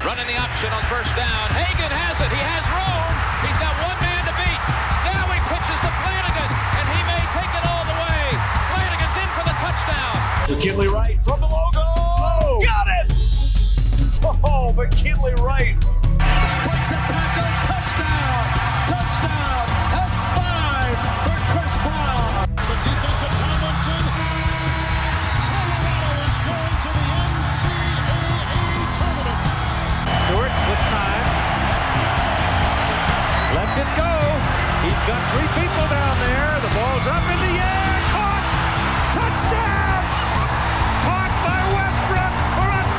Running the option on first down. Hagan has it. He has room. He's got one man to beat. Now he pitches to Flanagan, and he may take it all the way. Flanagan's in for the touchdown. McKinley Wright from the logo. Oh, got it! Oh, McKinley Wright. Breaks a tackle. Touchdown. Touchdown. That's 5 for Chris Brown. The defensive Tomlinson. Colorado is going to the NCAA tournament. Stewart with time. Lets it go. He's got 3 people down there. The ball's up in the air. Caught. Touchdown. Caught by Westbrook for a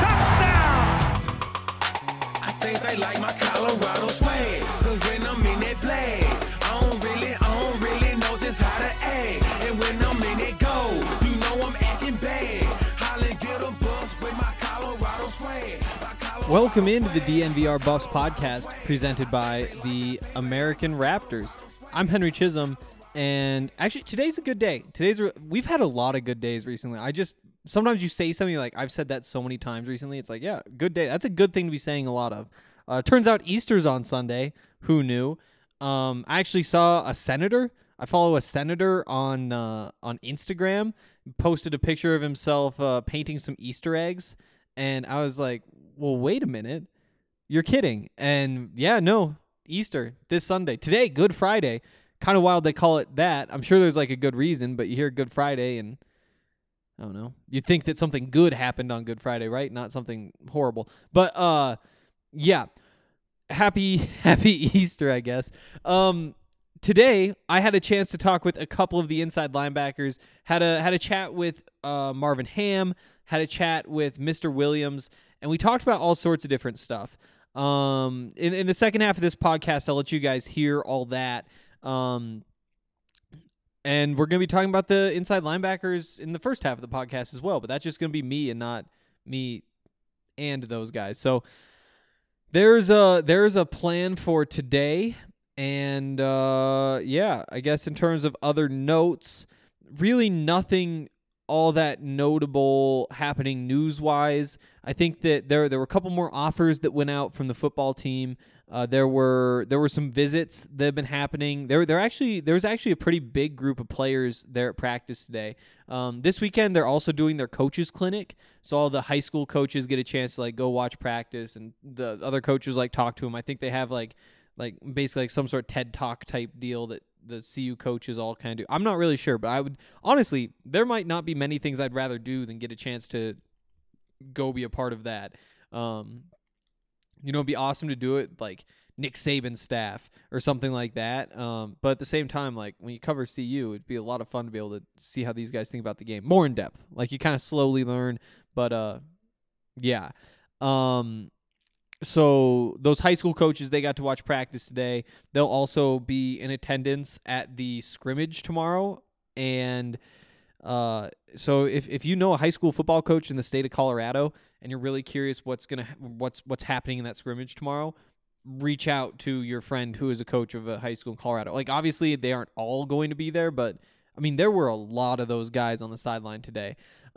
touchdown. I think they like my Colorado swag. Cause when I'm in that play, I don't really know just how to act. And when I'm in it go, you know I'm acting bad. Holly get a bus with my Colorado swag. Welcome into the DNVR Buffs podcast presented by the American Raptors. I'm Henry Chisholm, and actually today's a good day. We've had a lot of good days recently. Sometimes you say something like, I've said that so many times recently. It's like, yeah, good day. That's a good thing to be saying a lot of. Turns out Easter's on Sunday. Who knew? I actually saw a senator. I follow a senator on Instagram. Posted a picture of himself painting some Easter eggs, and I was like, well, wait a minute. You're kidding. And yeah, no, Easter this Sunday. Today, Good Friday. Kind of wild they call it that. I'm sure there's like a good reason, but you hear Good Friday and I don't know. You'd think that something good happened on Good Friday, right? Not something horrible. But yeah. Happy Easter, I guess. Today I had a chance to talk with a couple of the inside linebackers. Had a chat with Marvin Ham, had a chat with Mr. Williams, and we talked about all sorts of different stuff. In the second half of this podcast, I'll let you guys hear all that. And we're going to be talking about the inside linebackers in the first half of the podcast as well, but that's just going to be me and not me and those guys. So there's a plan for today. And yeah, I guess in terms of other notes, really nothing all that notable happening news-wise. I think that there were a couple more offers that went out from the football team. There were some visits that have been happening. There was actually a pretty big group of players there at practice today. This weekend they're also doing their coaches clinic, so all the high school coaches get a chance to like go watch practice, and the other coaches like talk to them. I think they have like basically like some sort of TED Talk type deal that the CU coaches all kind of do. I'm not really sure, but I would honestly, there might not be many things I'd rather do than get a chance to go be a part of that. It'd be awesome to do it like Nick Saban's staff or something like that. But at the same time, like when you cover CU, it'd be a lot of fun to be able to see how these guys think about the game more in depth. Like you kind of slowly learn, but yeah. So those high school coaches, they got to watch practice today. They'll also be in attendance at the scrimmage tomorrow. And so if you know a high school football coach in the state of Colorado and you're really curious what's happening in that scrimmage tomorrow, reach out to your friend who is a coach of a high school in Colorado. Like obviously they aren't all going to be there, but I mean there were a lot of those guys on the sideline today.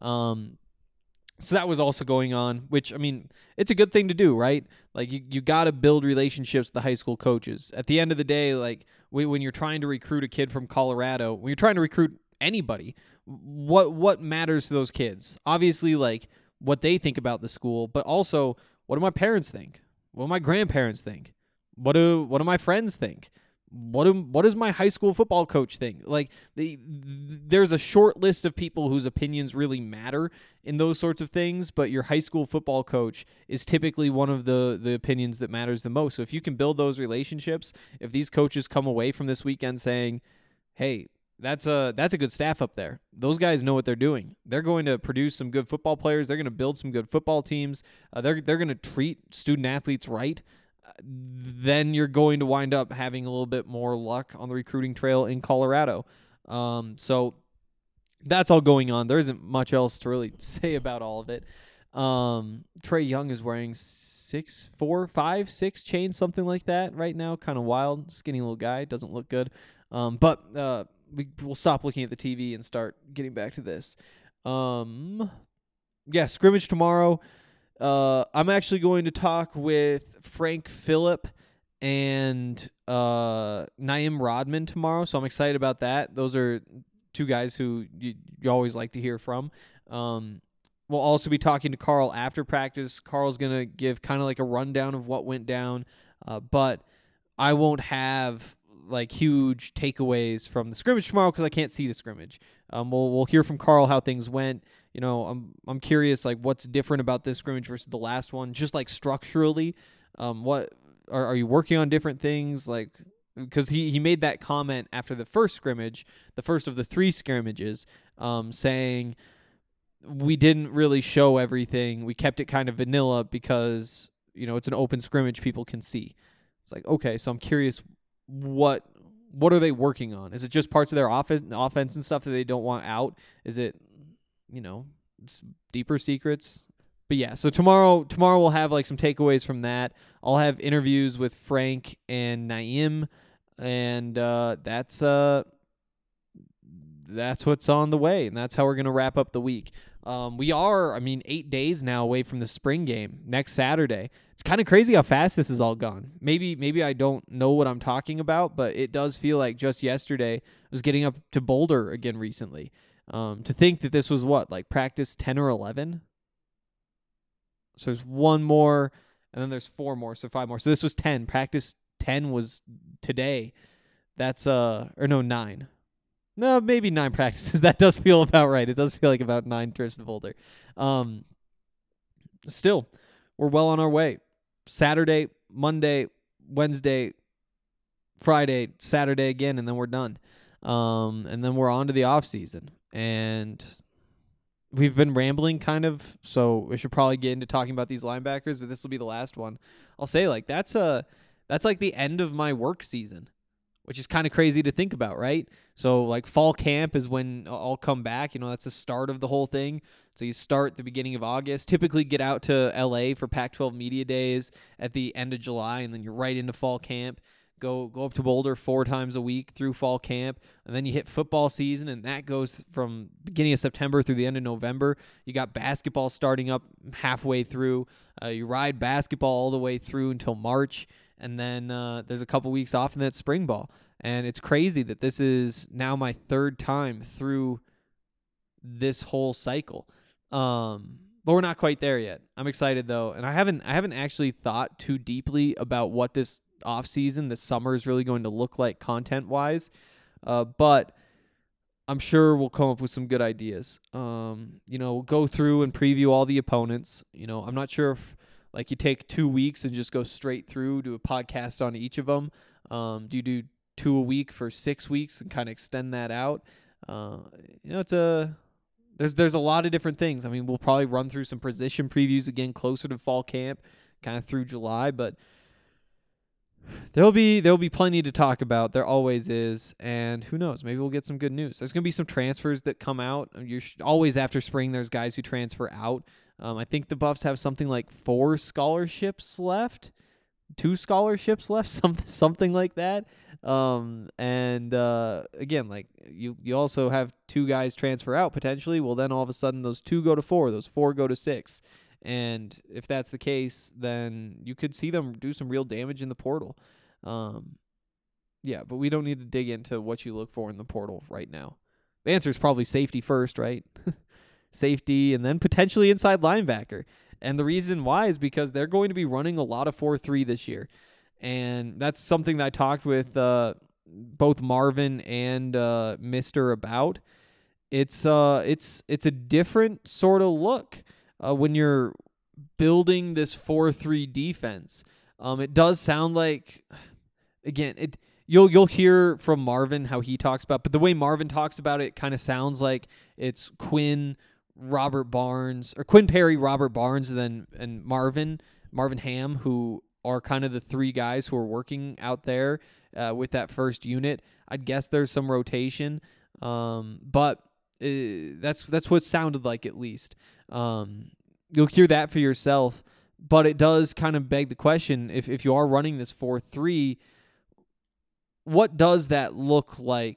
So that was also going on, which, I mean, it's a good thing to do, right? Like, you got to build relationships with the high school coaches. At the end of the day, like, when you're trying to recruit a kid from Colorado, when you're trying to recruit anybody, what matters to those kids? Obviously, like, what they think about the school, but also, what do my parents think? What do my grandparents think? What do my friends think? What does my high school football coach think? Like there's a short list of people whose opinions really matter in those sorts of things, but your high school football coach is typically one of the opinions that matters the most. So if you can build those relationships, if these coaches come away from this weekend saying, hey, that's a good staff up there. Those guys know what they're doing. They're going to produce some good football players. They're going to build some good football teams. They're going to treat student athletes right. Then you're going to wind up having a little bit more luck on the recruiting trail in Colorado. So that's all going on. There isn't much else to really say about all of it. Trae Young is wearing 6, 4, 5, 6 chains, something like that right now. Kind of wild, skinny little guy. Doesn't look good. But we'll stop looking at the TV and start getting back to this. Yeah, scrimmage tomorrow. I'm actually going to talk with Frank Phillip and Naeem Rodman tomorrow, so I'm excited about that. Those are two guys who you always like to hear from. We'll also be talking to Carl after practice. Carl's going to give kind of like a rundown of what went down, but I won't have like huge takeaways from the scrimmage tomorrow because I can't see the scrimmage. We'll hear from Carl how things went. You know, I'm curious like what's different about this scrimmage versus the last one, just like structurally. What are you working on different things like? Because he made that comment after the first scrimmage, the first of the 3 scrimmages, saying we didn't really show everything. We kept it kind of vanilla because, you know, it's an open scrimmage people can see. It's like, okay, so I'm curious what are they working on? Is it just parts of their offense and stuff that they don't want out? Is it, you know, deeper secrets? But yeah, so tomorrow we'll have like some takeaways from that. I'll have interviews with Frank and Naeem, and that's what's on the way, and that's how we're gonna wrap up the week. We are, 8 days now away from the spring game next Saturday. It's kind of crazy how fast this has all gone. Maybe I don't know what I'm talking about, but it does feel like just yesterday I was getting up to Boulder again recently. To think that this was practice 10 or 11. So there's 1 more, and then there's 4 more, so 5 more. So this was 10. Practice 10 was today. That's 9. No, maybe 9 practices. That does feel about right. It does feel like about 9 trips to Boulder. Still, we're well on our way. Saturday, Monday, Wednesday, Friday, Saturday again, and then we're done. And then we're on to the off season. And we've been rambling kind of, so we should probably get into talking about these linebackers, but this will be the last one. I'll say that's like the end of my work season, which is kind of crazy to think about, right? So like fall camp is when I'll come back. You know, that's the start of the whole thing. So you start the beginning of August, typically get out to LA for Pac-12 media days at the end of July, and then you're right into fall camp. Go up to Boulder 4 times a week through fall camp, and then you hit football season, and that goes from beginning of September through the end of November. You got basketball starting up halfway through. You ride basketball all the way through until March, and then there's a couple weeks off in that spring ball. And it's crazy that this is now my 3rd time through this whole cycle. But we're not quite there yet. I'm excited though, and I haven't actually thought too deeply about what this off-season, this summer is really going to look like content-wise. I'm sure we'll come up with some good ideas. We'll go through and preview all the opponents. You know, I'm not sure if you take 2 weeks and just go straight through, do a podcast on each of them. Do you do 2 a week for 6 weeks and kind of extend that out? There's a lot of different things. We'll probably run through some position previews again closer to fall camp, kind of through July, but there'll be plenty to talk about. There always is, and who knows? Maybe we'll get some good news. There's going to be some transfers that come out. Always after spring, there's guys who transfer out. I think the Buffs have something like 4 scholarships left, 2 scholarships left, something like that. Again, you also have 2 guys transfer out potentially. Well, then all of a sudden those 2 go to 4, those 4 go to 6. And if that's the case, then you could see them do some real damage in the portal. But we don't need to dig into what you look for in the portal right now. The answer is probably safety first, right? Safety, and then potentially inside linebacker. And the reason why is because they're going to be running a lot of 4-3 this year. And that's something that I talked with both Marvin and Mister about. It's a different sort of look. When you're building this 4-3 defense, it does sound like, again, you'll hear from Marvin how he talks about, but the way Marvin talks about it kind of sounds like it's Quinn, Robert Barnes, or Quinn Perry, Robert Barnes, and Marvin Ham, who are kind of the 3 guys who are working out there with that first unit. I'd guess there's some rotation, but that's what it sounded like at least. You'll hear that for yourself, but it does kind of beg the question, if you are running this 4-3, what does that look like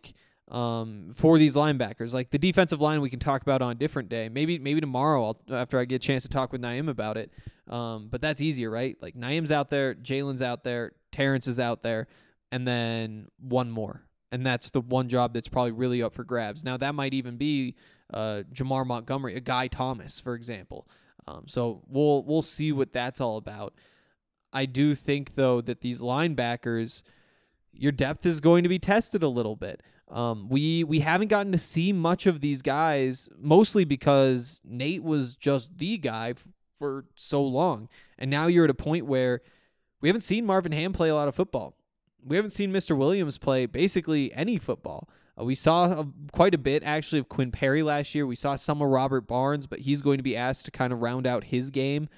for these linebackers. Like the defensive line we can talk about on a different day. Maybe tomorrow after I get a chance to talk with Naeem about it. But that's easier, right? Like Naeem's out there, Jalen's out there, Terrence is out there, and then one more. And that's the one job that's probably really up for grabs. Now that might even be Jamar Montgomery, a Guy Thomas, for example. So we'll see what that's all about. I do think, though, that these linebackers, your depth is going to be tested a little bit. We haven't gotten to see much of these guys, mostly because Nate was just the guy for so long. And now you're at a point where we haven't seen Marvin Ham play a lot of football. We haven't seen Mr. Williams play basically any football. We saw quite a bit, actually, of Quinn Perry last year. We saw some of Robert Barnes, but he's going to be asked to kind of round out his game.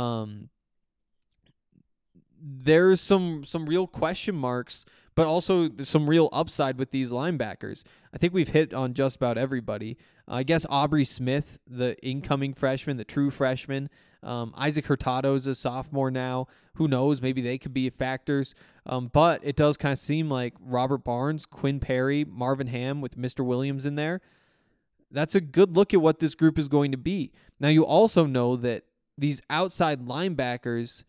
There's some real question marks, but also there's some real upside with these linebackers. I think we've hit on just about everybody. I guess Aubrey Smith, the incoming freshman, the true freshman. Isaac Hurtado's a sophomore now. Who knows? Maybe they could be factors. But it does kind of seem like Robert Barnes, Quinn Perry, Marvin Ham with Mr. Williams in there. That's a good look at what this group is going to be. Now, you also know that these outside linebackers,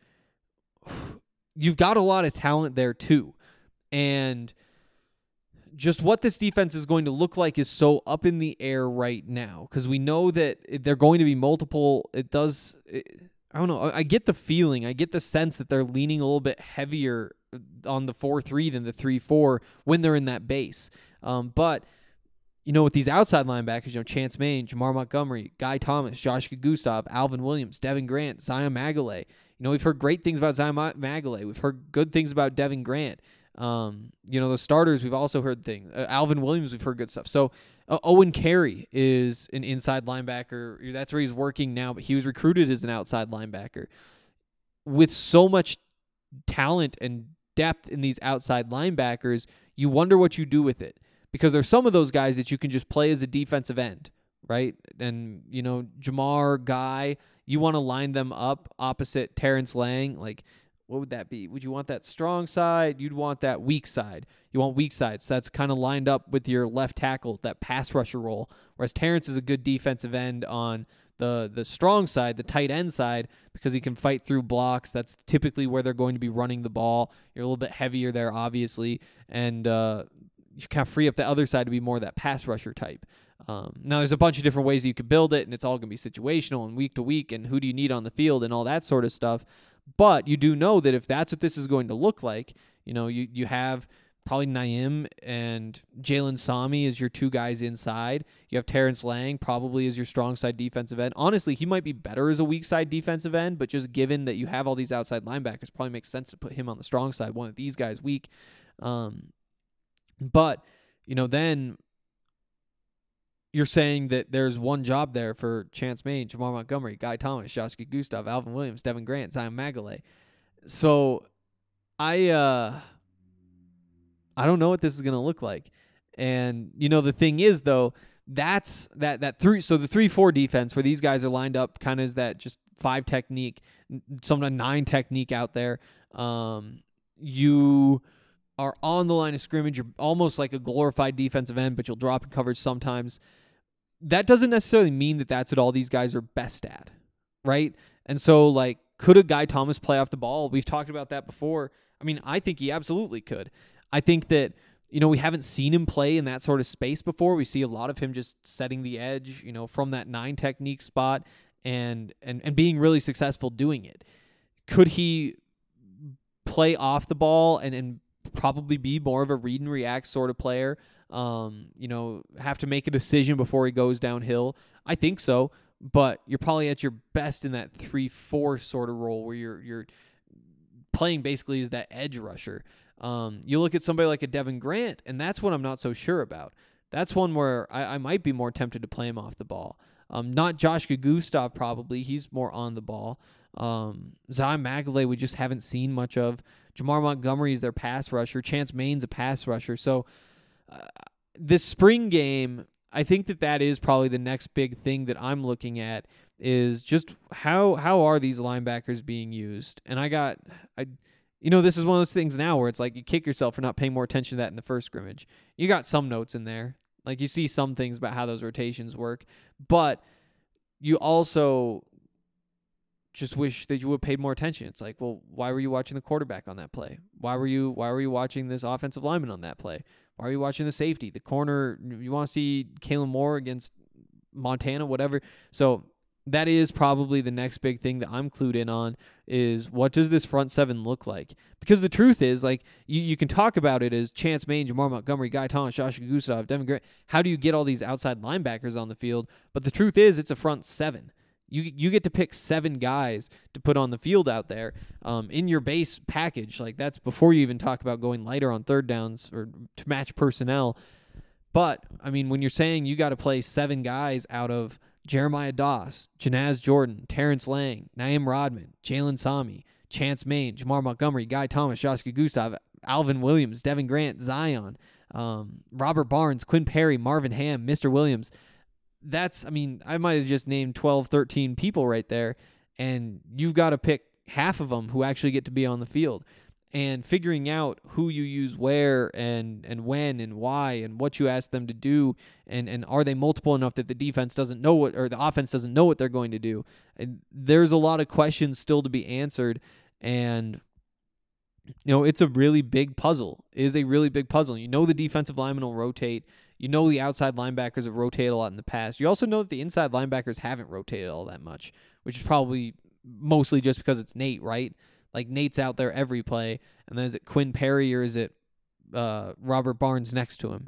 you've got a lot of talent there too. And just what this defense is going to look like is so up in the air right now, because we know that they're going to be multiple. I don't know. I get the feeling, I get the sense that they're leaning a little bit heavier on the 4-3 than the 3-4 when they're in that base. But with these outside linebackers, Chance Main, Jamar Montgomery, Guy Thomas, Josh Gustav, Alvin Williams, Devin Grant, Zion Magalay. We've heard great things about Zion Magalay. We've heard good things about Devin Grant. The starters, we've also heard things. Alvin Williams, we've heard good stuff. So Owen Carey is an inside linebacker. That's where he's working now, but he was recruited as an outside linebacker. With so much talent and depth in these outside linebackers, you wonder what you do with it. Because there's some of those guys that you can just play as a defensive end, right? And, Jamar, Guy, you want to line them up opposite Terrence Lang. Like, what would that be? Would you want that strong side? You'd want that weak side. You want weak side. So that's kind of lined up with your left tackle, that pass rusher role. Whereas Terrence is a good defensive end on the strong side, the tight end side, because he can fight through blocks. That's typically where they're going to be running the ball. You're a little bit heavier there, obviously. And you kind of free up the other side to be more of that pass rusher type. Now, there's a bunch of different ways you could build it, and it's all going to be situational and week to week, and who do you need on the field and all that sort of stuff. But you do know that if that's what this is going to look like, you have probably Naeem and Jalen Sami as your two guys inside. You have Terrence Lang probably as your strong side defensive end. Honestly, he might be better as a weak side defensive end, but just given that you have all these outside linebackers, probably makes sense to put him on the strong side, one of these guys weak. But, then you're saying that there's one job there for Chance Main, Jamar Montgomery, Guy Thomas, Josh Gustav, Alvin Williams, Devin Grant, Zion Magalay. So I don't know what this is going to look like. And, the thing is, though, that's that three. So the 3-4 defense where these guys are lined up kind of is that just 5 technique, sometimes 9 technique out there. You are on the line of scrimmage. You're almost like a glorified defensive end, but you'll drop in coverage sometimes. That doesn't necessarily mean that that's what all these guys are best at, right? And so, could a Guy Thomas play off the ball? We've talked about that before. I mean, I think he absolutely could. I think that, we haven't seen him play in that sort of space before. We see a lot of him just setting the edge, from that 9 technique spot and being really successful doing it. Could he play off the ball and probably be more of a read and react sort of player? Have to make a decision before he goes downhill. I think so, but you're probably at your best in that 3-4 sort of role where you're playing basically as that edge rusher. You look at somebody like a Devin Grant, and that's what I'm not so sure about. That's one where I might be more tempted to play him off the ball. Not Josh Gustav probably. He's more on the ball. Zion Magalay we just haven't seen much of. Jamar Montgomery is their pass rusher. Chance Main's a pass rusher. So this spring game, I think that is probably the next big thing that I'm looking at is just how are these linebackers being used? And This is one of those things now where it's like you kick yourself for not paying more attention to that in the first scrimmage. You got some notes in there. Like, you see some things about how those rotations work, but you also just wish that you would have paid more attention. It's like, well, why were you watching the quarterback on that play? Why were you watching this offensive lineman on that play? Why are you watching the safety, the corner? You want to see Kalen Moore against Montana, whatever. So that is probably the next big thing that I'm clued in on, is what does this front seven look like? Because the truth is, like, you can talk about it as Chance Main, Jamar Montgomery, Guy Thomas, Joshua Gustav, Devin Grant. How do you get all these outside linebackers on the field? But the truth is, it's a front seven. You get to pick 7 guys to put on the field out there in your base package. Like, that's before you even talk about going lighter on third downs or to match personnel. But, I mean, when you're saying you got to play 7 guys out of Jeremiah Doss, Janaz Jordan, Terrence Lang, Naeem Rodman, Jalen Sami, Chance Main, Jamar Montgomery, Guy Thomas, Joshua Gustav, Alvin Williams, Devin Grant, Zion, Robert Barnes, Quinn Perry, Marvin Ham, Mr. Williams. I might have just named 12, 13 people right there, and you've got to pick half of them who actually get to be on the field. And figuring out who you use where and when and why and what you ask them to do, and are they multiple enough that the defense doesn't know what, or the offense doesn't know what they're going to do. And there's a lot of questions still to be answered, and it's a really big puzzle. It is a really big puzzle. The defensive linemen will rotate. The outside linebackers have rotated a lot in the past. You also know that the inside linebackers haven't rotated all that much, which is probably mostly just because it's Nate, right? Like, Nate's out there every play, and then is it Quinn Perry or is it Robert Barnes next to him?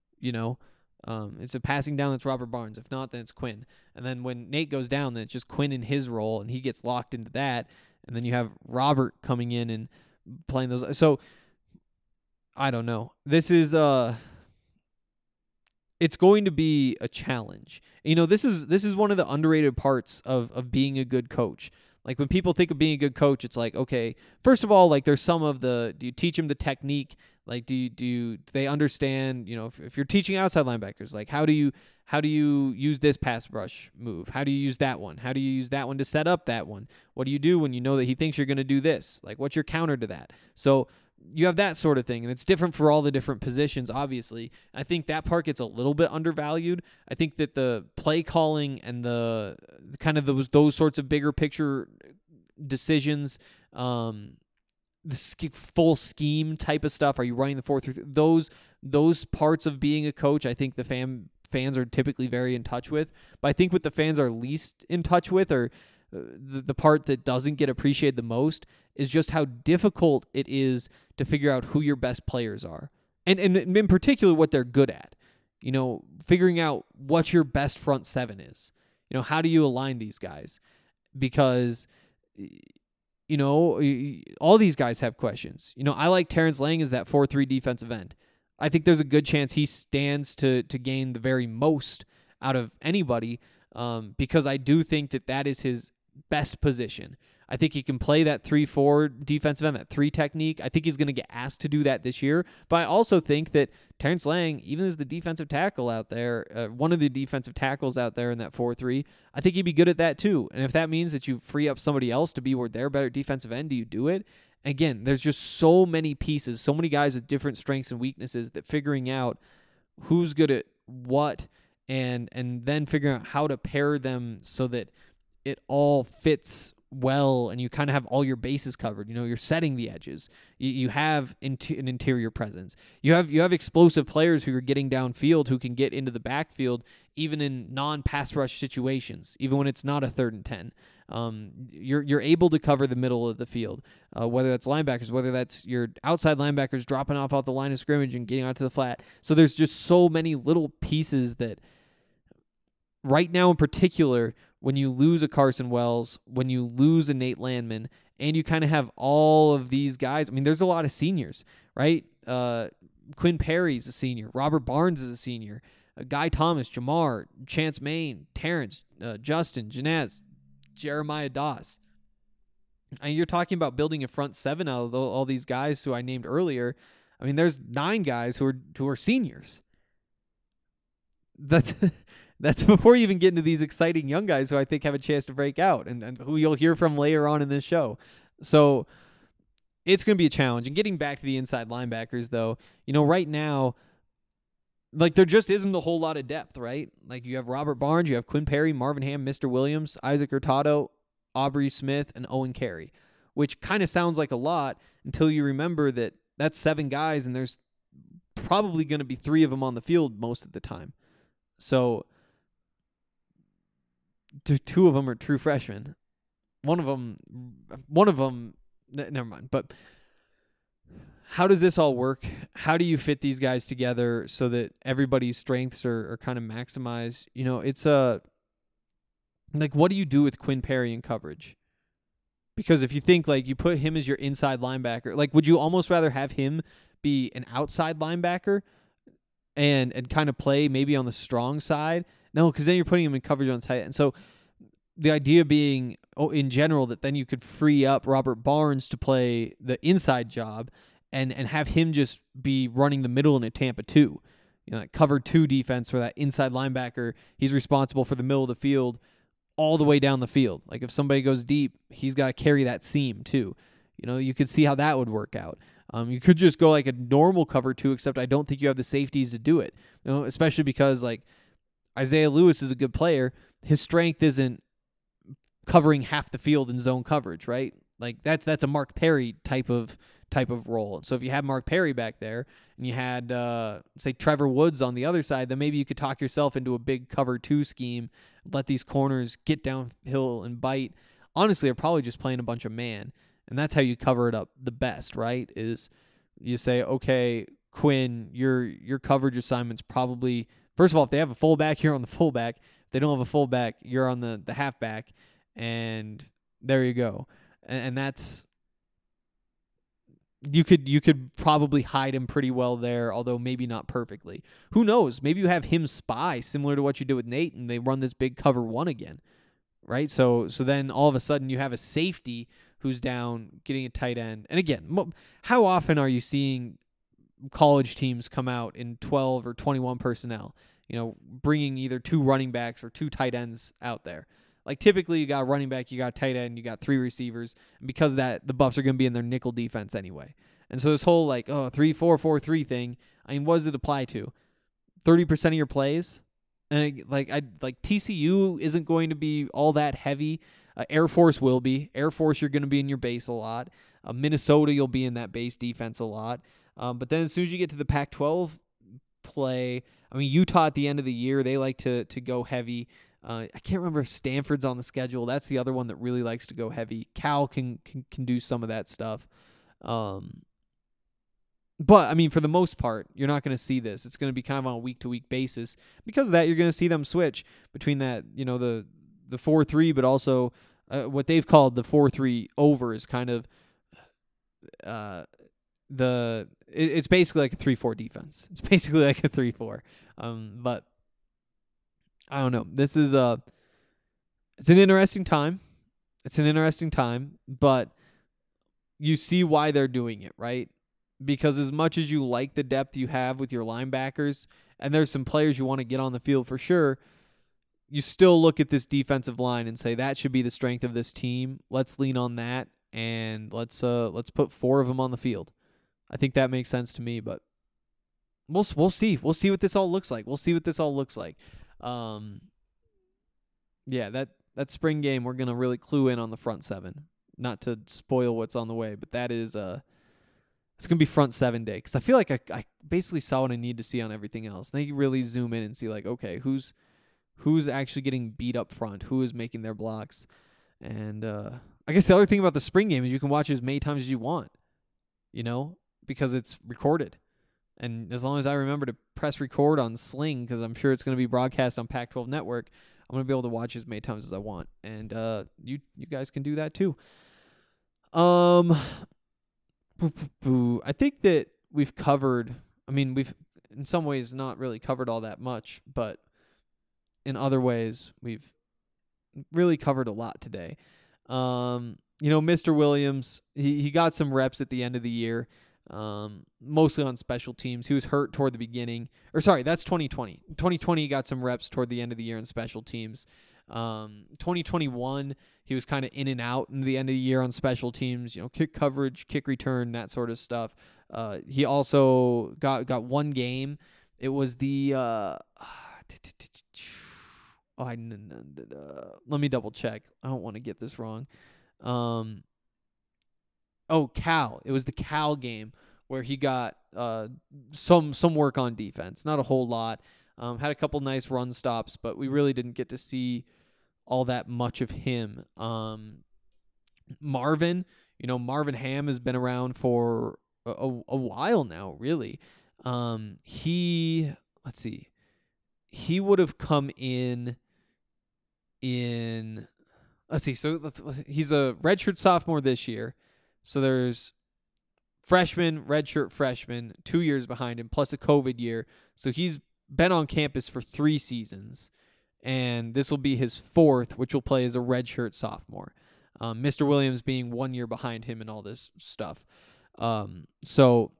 It's a passing down that's Robert Barnes. If not, then it's Quinn. And then when Nate goes down, then it's just Quinn in his role, and he gets locked into that. And then you have Robert coming in and playing those. So, I don't know. This is it's going to be a challenge. This is one of the underrated parts of being a good coach. Like, when people think of being a good coach, it's like, okay, first of all, like, there's some of do you teach them the technique? Like, do they understand, if you're teaching outside linebackers, like, how do you use this pass rush move? How do you use that one? How do you use that one to set up that one? What do you do when you know that he thinks you're going to do this? Like, what's your counter to that? So you have that sort of thing, and it's different for all the different positions, obviously. I think that part gets a little bit undervalued. I think that the play calling and the kind of those sorts of bigger picture decisions, the full scheme type of stuff, are you running the 4-3? Those parts of being a coach, I think the fans are typically very in touch with. But I think what the fans are least in touch with, or the part that doesn't get appreciated the most, is just how difficult it is to figure out who your best players are. And in particular, what they're good at. Figuring out what your best front seven is. How do you align these guys? Because, all these guys have questions. I like Terrence Lang as that 4-3 defensive end. I think there's a good chance he stands to gain the very most out of anybody, because I do think that is his best position. I think he can play that 3-4 defensive end, that 3 technique. I think he's going to get asked to do that this year. But I also think that Terrence Lang, even as the defensive tackle out there, one of the defensive tackles out there in that 4-3, I think he'd be good at that too. And if that means that you free up somebody else to be where they're better defensive end, do you do it? Again, there's just so many pieces, so many guys with different strengths and weaknesses, that figuring out who's good at what and then figuring out how to pair them so that it all fits well, and you kind of have all your bases covered. You're setting the edges. You have an interior presence. You have explosive players who are getting downfield, who can get into the backfield even in non-pass rush situations, even when it's not a 3rd and 10. You're able to cover the middle of the field, whether that's linebackers, whether that's your outside linebackers dropping off the line of scrimmage and getting onto the flat. So there's just so many little pieces that right now in particular, when you lose a Carson Wells, when you lose a Nate Landman, and you kind of have all of these guys. I mean, there's a lot of seniors, right? Quinn Perry's a senior. Robert Barnes is a senior. Guy Thomas, Jamar, Chance Main, Terrence, Justin, Janaz, Jeremiah Doss. And you're talking about building a front seven out of all these guys who I named earlier. I mean, there's 9 guys who are seniors. That's before you even get into these exciting young guys who I think have a chance to break out and who you'll hear from later on in this show. So it's going to be a challenge. And getting back to the inside linebackers, though, right now, like, there just isn't a whole lot of depth, right? Like, you have Robert Barnes, you have Quinn Perry, Marvin Ham, Mr. Williams, Isaac Hurtado, Aubrey Smith, and Owen Carey, which kind of sounds like a lot until you remember that that's 7 guys, and there's probably going to be 3 of them on the field most of the time. So 2 of them are true freshmen. One of them, never mind. But how does this all work? How do you fit these guys together so that everybody's strengths are kind of maximized? It's like, what do you do with Quinn Perry in coverage? Because if you think, like, you put him as your inside linebacker, like, would you almost rather have him be an outside linebacker and kind of play maybe on the strong side? No, because then you're putting him in coverage on tight end. So the idea being, in general, that then you could free up Robert Barnes to play the inside job and have him just be running the middle in a Tampa 2. That cover 2 defense where that inside linebacker, he's responsible for the middle of the field all the way down the field. Like, if somebody goes deep, he's got to carry that seam too. You could see how that would work out. You could just go like a normal cover 2, except I don't think you have the safeties to do it. Especially because, like, Isaiah Lewis is a good player. His strength isn't covering half the field in zone coverage, right? Like, that's a Mark Perry type of role. So if you had Mark Perry back there and you had say Trevor Woods on the other side, then maybe you could talk yourself into a big cover 2 scheme, let these corners get downhill and bite. Honestly, they're probably just playing a bunch of man, and that's how you cover it up the best, right? Is you say, okay, Quinn, your coverage assignment's probably, first of all, if they have a fullback, you're on the fullback. If they don't have a fullback, you're on the halfback, and there you go. And that's, you could probably hide him pretty well there, although maybe not perfectly. Who knows? Maybe you have him spy, similar to what you did with Nate, and they run this big cover 1 again, right? So then all of a sudden you have a safety who's down getting a tight end. And again, how often are you seeing college teams come out in 12 or 21 personnel, bringing either 2 running backs or 2 tight ends out there? Like, typically you got a running back, you got a tight end, you got 3 receivers, and because of that, the Buffs are going to be in their nickel defense anyway. And so this whole 3-4-4-3 thing, I mean, what does it apply to? 30% of your plays? And TCU isn't going to be all that heavy. Air Force will be. Air Force, you're going to be in your base a lot. Minnesota, you'll be in that base defense a lot. But then as soon as you get to the Pac-12 play, I mean, Utah at the end of the year, they like to go heavy. I can't remember if Stanford's on the schedule. That's the other one that really likes to go heavy. Cal can do some of that stuff. But, I mean, for the most part, you're not going to see this. It's going to be kind of on a week-to-week basis. Because of that, you're going to see them switch between that, the 4-3, but also what they've called the 4-3 over is kind of it's basically like a 3-4 defense. It's basically like a 3-4. But I don't know. This is it's an interesting time. But you see why they're doing it, right? Because as much as you like the depth you have with your linebackers, and there's some players you want to get on the field for sure, you still look at this defensive line and say that should be the strength of this team. Let's lean on that, and let's put 4 of them on the field. I think that makes sense to me, but we'll see. We'll see what this all looks like. Yeah, that spring game, we're going to really clue in on the front 7. Not to spoil what's on the way, but that is it's going to be front 7 day, because I feel like I basically saw what I need to see on everything else. They really zoom in and see, like, okay, who's actually getting beat up front, who is making their blocks. And I guess the other thing about the spring game is you can watch as many times as you want, because it's recorded. And as long as I remember to press record on Sling, because I'm sure it's going to be broadcast on Pac-12 Network, I'm going to be able to watch as many times as I want. And you guys can do that too. I think that we've covered, we've in some ways not really covered all that much, but in other ways we've really covered a lot today. Mr. Williams, he got some reps at the end of the year. Mostly on special teams. He was hurt toward the beginning. Or sorry, that's 2020. 2020 he got some reps toward the end of the year in special teams. 2021, He was kind of in and out in the end of the year on special teams, kick coverage, kick return, that sort of stuff. He also got one game. It was the let me double check. I don't want to get this wrong. Cal. It was the Cal game where he got some work on defense. Not a whole lot. Had a couple nice run stops, but we really didn't get to see all that much of him. Marvin Ham has been around for a while now, really. He would have come in let's see. So he's a redshirt sophomore this year. So there's freshman, redshirt freshman, 2 years behind him, plus a COVID year. So he's been on campus for 3 seasons, and this will be his 4th, which will play as a redshirt sophomore. Mr. Williams being 1 year behind him and all this stuff. So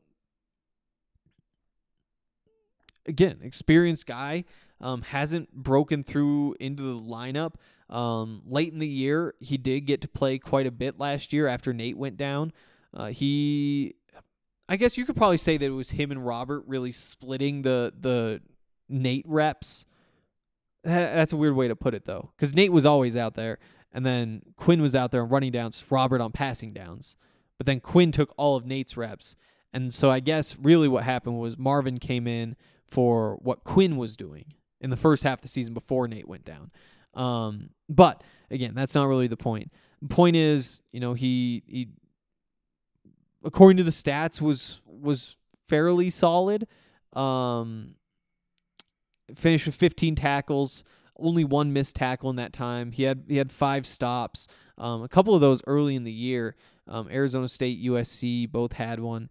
again, experienced guy, hasn't broken through into the lineup. Late in the year, he did get to play quite a bit last year after Nate went down. I guess you could probably say that it was him and Robert really splitting the Nate reps. That's a weird way to put it, though, because Nate was always out there, and then Quinn was out there on running downs, Robert on passing downs. But then Quinn took all of Nate's reps. And so I guess really what happened was Marvin came in for what Quinn was doing in the first half of the season before Nate went down. But again, that's not really the point. The point is, he according to the stats was fairly solid. Finished with 15 tackles, only 1 missed tackle in that time. He had 5 stops. A couple of those early in the year. Arizona State, USC both had one.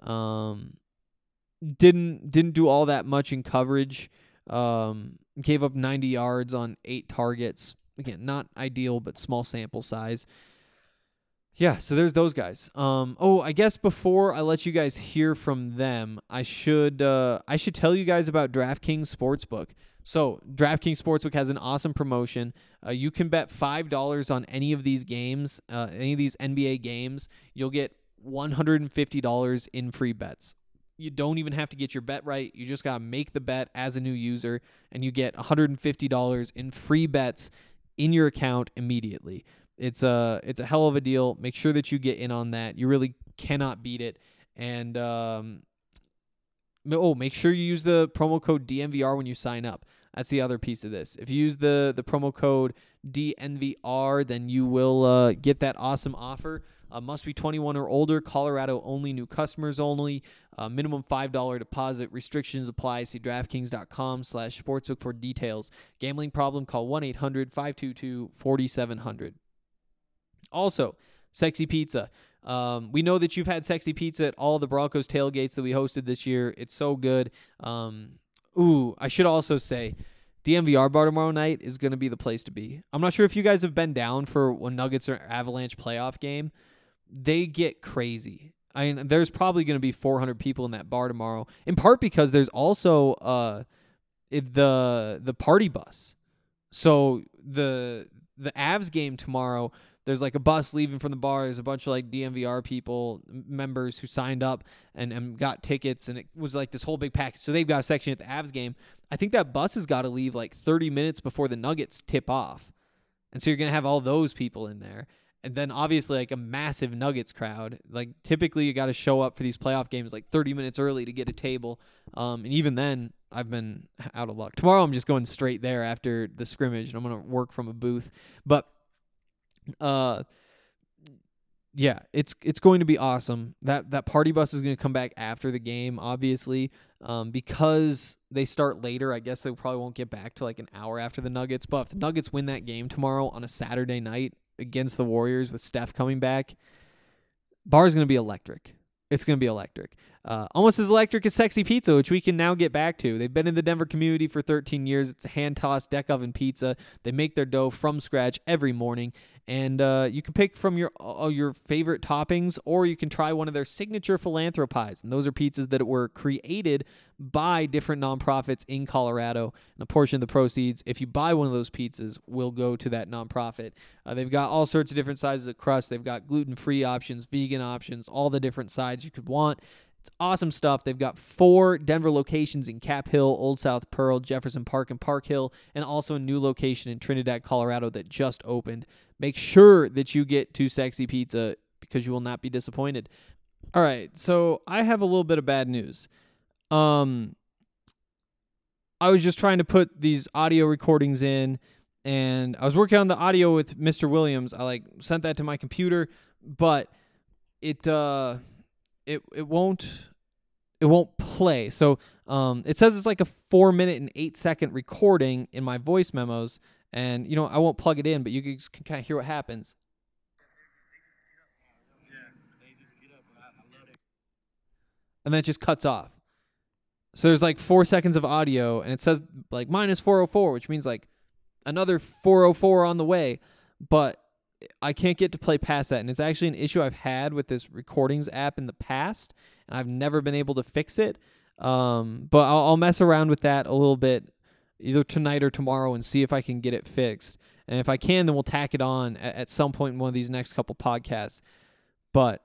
Didn't do all that much in coverage. Gave up 90 yards on 8 targets. Again, not ideal, but small sample size. Yeah, so there's those guys. I guess before I let you guys hear from them, I should tell you guys about DraftKings Sportsbook. So DraftKings Sportsbook has an awesome promotion. You can bet $5 on any of these games, any of these NBA games. You'll get $150 in free bets. You don't even have to get your bet right. You just got to make the bet as a new user, and you get $150 in free bets in your account immediately. It's a hell of a deal. Make sure that you get in on that. You really cannot beat it. And make sure you use the promo code DNVR when you sign up. That's the other piece of this. If you use the promo code DNVR, then you will get that awesome offer. Must be 21 or older. Colorado only. New customers only. Minimum $5 deposit. Restrictions apply. See DraftKings.com/sportsbook for details. Gambling problem? Call 1-800-522-4700. Also, Sexy Pizza. We know that you've had Sexy Pizza at all the Broncos tailgates that we hosted this year. It's so good. I should also say, DNVR bar tomorrow night is going to be the place to be. I'm not sure if you guys have been down for a Nuggets or Avalanche playoff game. They get crazy. I mean, there's probably going to be 400 people in that bar tomorrow, in part because there's also the party bus. So the Avs game tomorrow, there's like a bus leaving from the bar. There's a bunch of like DNVR people, members who signed up and got tickets, and it was like this whole big package. So they've got a section at the Avs game. I think that bus has got to leave like 30 minutes before the Nuggets tip off. And so you're going to have all those people in there. And then obviously like a massive Nuggets crowd. Like typically you got to show up for these playoff games like 30 minutes early to get a table. And even then I've been out of luck. Tomorrow I'm just going straight there after the scrimmage, and I'm going to work from a booth. But yeah, it's going to be awesome. That party bus is going to come back after the game, obviously, because they start later. I guess they probably won't get back to like an hour after the Nuggets. But if the Nuggets win that game tomorrow on a Saturday night against the Warriors with Steph coming back, bar is going to be electric. It's going to be electric. Almost as electric as Sexy Pizza, which we can now get back to. They've been in the Denver community for 13 years. It's a hand-tossed deck oven pizza. They make their dough from scratch every morning, and you can pick from your favorite toppings, or you can try one of their signature philanthropies. And those are pizzas that were created by different nonprofits in Colorado. And a portion of the proceeds, if you buy one of those pizzas, will go to that nonprofit. They've got all sorts of different sizes of crust. They've got gluten-free options, vegan options, all the different sides you could want. It's awesome stuff. They've got 4 Denver locations in Cap Hill, Old South Pearl, Jefferson Park, and Park Hill, and also a new location in Trinidad, Colorado that just opened. Make sure that you get to Sexy Pizza because you will not be disappointed. All right, so I have a little bit of bad news. I was just trying to put these audio recordings in, and I was working on the audio with Mr. Williams. I sent that to my computer, but it won't play. So it says it's like a 4-minute and 8-second recording in my voice memos, and I won't plug it in, but you can kind of hear what happens. And then it just cuts off. So there's 4 seconds of audio, and it says minus 404, which means another 404 on the way, but I can't get to play past that, and it's actually an issue I've had with this recordings app in the past, and I've never been able to fix it. But I'll mess around with that a little bit, either tonight or tomorrow, and see if I can get it fixed. And if I can, then we'll tack it on at some point in one of these next couple podcasts. But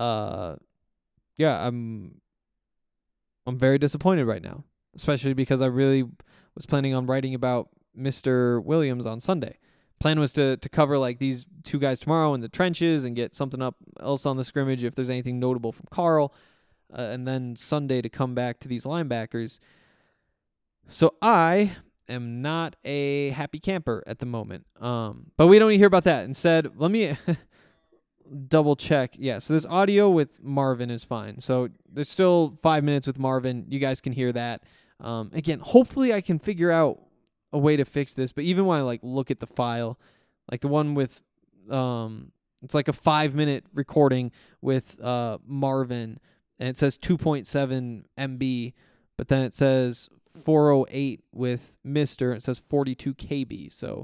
yeah, I'm very disappointed right now, especially because I really was planning on writing about Mr. Williams on Sunday. Plan was to cover these 2 guys tomorrow in the trenches and get something up else on the scrimmage if there's anything notable from Carl, and then Sunday to come back to these linebackers. So I am not a happy camper at the moment. But we don't need to hear about that. Instead, let me double check. Yeah, so this audio with Marvin is fine. So there's still 5 minutes with Marvin. You guys can hear that. Again, hopefully I can figure out a way to fix this, but even when I look at the file, the one with it's a 5-minute recording with Marvin, and it says 2.7 MB, but then it says 408 with Mr. and it says 42 KB. So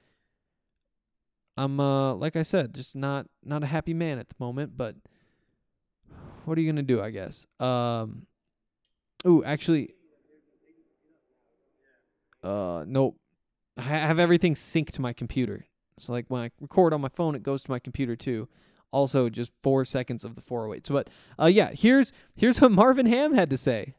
I'm like I said, just not a happy man at the moment, but what are you gonna do, I guess? Actually, nope. I have everything synced to my computer. So when I record on my phone, it goes to my computer too. Also, just 4 seconds of the 408. So, but yeah, here's what Marvin Ham had to say.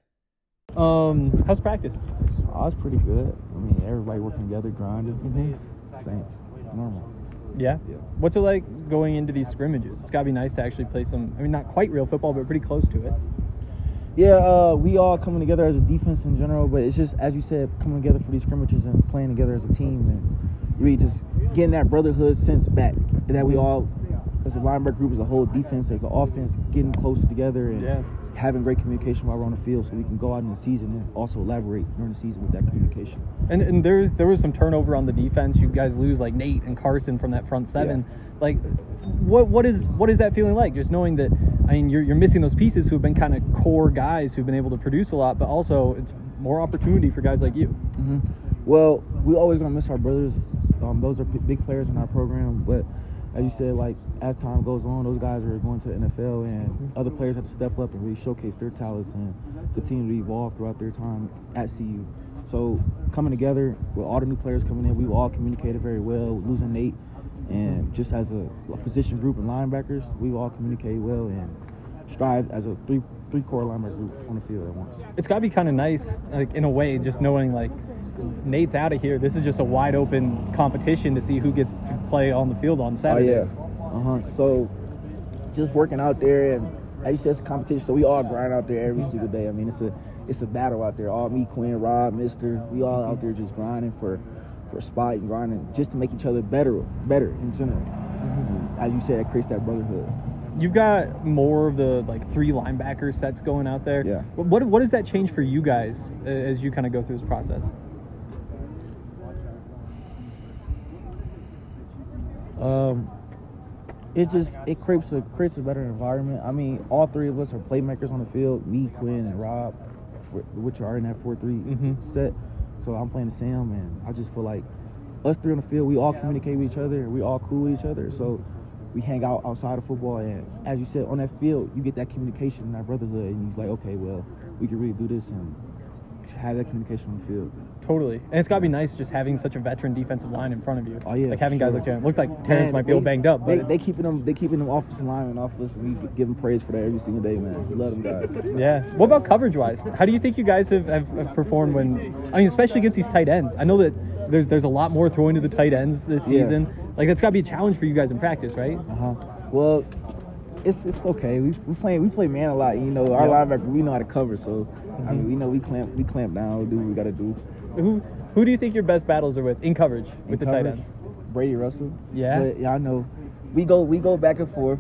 How's practice? Oh, it's pretty good. I mean, everybody working together, grinding. Same, normal. Yeah? What's it like going into these scrimmages? It's got to be nice to actually play some, not quite real football, but pretty close to it. Yeah, we all coming together as a defense in general, but it's just, as you said, coming together for these scrimmages and playing together as a team and really just getting that brotherhood sense back that we all, as a linebacker group, as a whole defense, as an offense, getting close together and having great communication while we're on the field so we can go out in the season and also elaborate during the season with that communication. And there was some turnover on the defense. You guys lose Nate and Carson from that front seven. Yeah. What is that feeling like? Just knowing that, you're missing those pieces who have been kind of core guys who've been able to produce a lot, but also it's more opportunity for guys like you. Mm-hmm. Well, we always gonna miss our brothers. Those are big players in our program, but as you said, as time goes on, those guys are going to the NFL, and other players have to step up and really showcase their talents and continue to evolve throughout their time at CU. So coming together with all the new players coming in, we've all communicated very well. Losing Nate, and just as a position group of linebackers, we've all communicated well and strive as a three-core linebacker group on the field at once. It's got to be kind of nice, in a way, just knowing Nate's out of here. This is just a wide open competition to see who gets to play on the field on Saturdays. Oh, yeah. So just working out there, and as you said, it's a competition, so we all grind out there every single day. It's a battle out there. All me, Quinn, Rob, Mister, we all out there just grinding for a spot and grinding just to make each other better in general. Mm-hmm. As you said, it creates that brotherhood. You've got more of the 3 linebacker sets going out there. Yeah. What does that change for you guys as you kind of go through this process? it creates a better environment. I mean, all three of us are playmakers on the field. Me, Quinn, and Rob, which are in that 4-3 set. So I'm playing the Sam, and I just feel like us three on the field, we all communicate with each other, and we all cool with each other. So we hang out outside of football, and as you said, on that field, you get that communication and that brotherhood, and you're like, okay, well, we can really do this and have that communication on the field. Totally. And it's got to be nice just having such a veteran defensive line in front of you. Oh, yeah. Like having guys sure. like Terrence. Looked like Terrence might be a little banged up, but they keeping them offensive linemen off us, and we give them praise for that every single day, man. We love them guys. yeah. What about coverage-wise? How do you think you guys have performed when, I mean, especially against these tight ends? I know that there's a lot more throwing to the tight ends this season. Like, that's got to be a challenge for you guys in practice, right? Well, it's okay. We play man a lot. You know, our linebacker, we know how to cover. So I mean, we know we clamp down. We do what we got to do. Who do you think your best battles are with in coverage with the tight ends? Brady Russell. Yeah. But, I know. We go back and forth.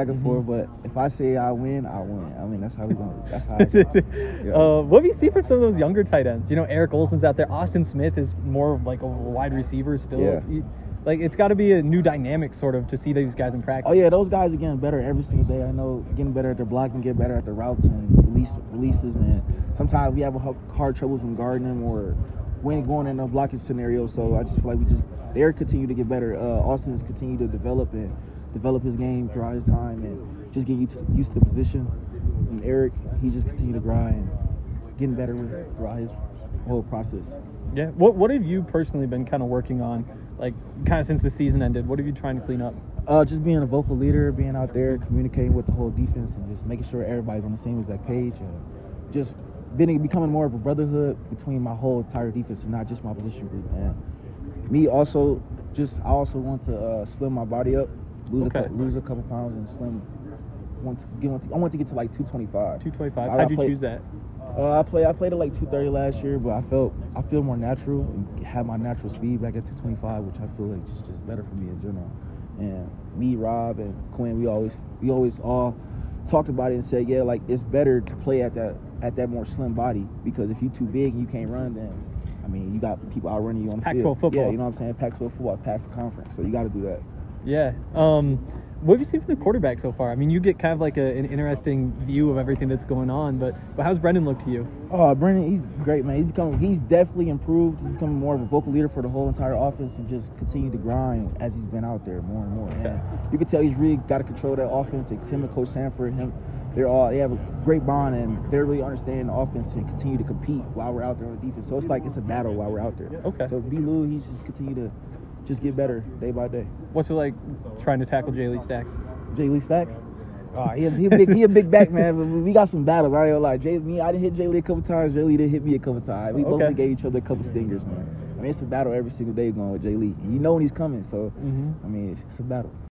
But if I say I win, I win. I mean, that's how we going. That's how. What have you seen from some of those younger tight ends? You know, Eric Olson's out there. Austin Smith is more of like a wide receiver still. Yeah. Like, it's got to be a new dynamic sort of to see these guys in practice. Oh yeah, those guys are getting better every single day. I know, getting better at their blocking, get better at their routes and releases. And sometimes we have hard troubles when guarding them or when going in a blocking scenario. So I just feel like they're continue to get better. Austin's continue to develop his game throughout his time and just get used to the position. And Eric, he just continue to grind and getting better throughout his whole process. Yeah. What have you personally been kind of working on, like, kind of since the season ended? What have you trying to clean up? Just being a vocal leader, being out there, communicating with the whole defense, and just making sure everybody's on the same exact page. Just becoming more of a brotherhood between my whole entire defense and not just my position group. And me also, I also want to slim my body up, lose a couple pounds, and slim. I want to get to like 225. 225. How'd you choose that? I played at like 230 last year, but I feel more natural and have my natural speed back at 225, which I feel like is just better for me in general. And me, Rob, and Quinn, we always all talked about it and said, yeah, like it's better to play at that more slim body, because if you're too big and you can't run, then I mean you got people outrunning you on the Pac-12 field. football. Yeah, you know what I'm saying? Pac-12 football, pass the conference, so you got to do that. Yeah. What have you seen from the quarterback so far? I mean, you get kind of like an interesting view of everything that's going on, but how's Brendan look to you? Oh, Brendan, he's great, man. He's definitely improved. He's becoming more of a vocal leader for the whole entire offense and just continue to grind as he's been out there more and more. Okay. And you can tell he's really got to control that offense. Him and Coach Sanford, they have a great bond, and they're really understanding the offense and continue to compete while we're out there on the defense. So it's like it's a battle while we're out there. Okay. So B-Lou, he's just continue to just get better day by day. What's it like trying to tackle Jay Lee Stacks? Jay Lee Stacks? Oh, he a big back, man. But we got some battles. I ain't gonna lie. I didn't hit Jay Lee a couple times. Jay Lee didn't hit me a couple times. We both gave each other a couple stingers, man. I mean, it's a battle every single day going with Jay Lee. And you know when he's coming, so I mean, it's a battle.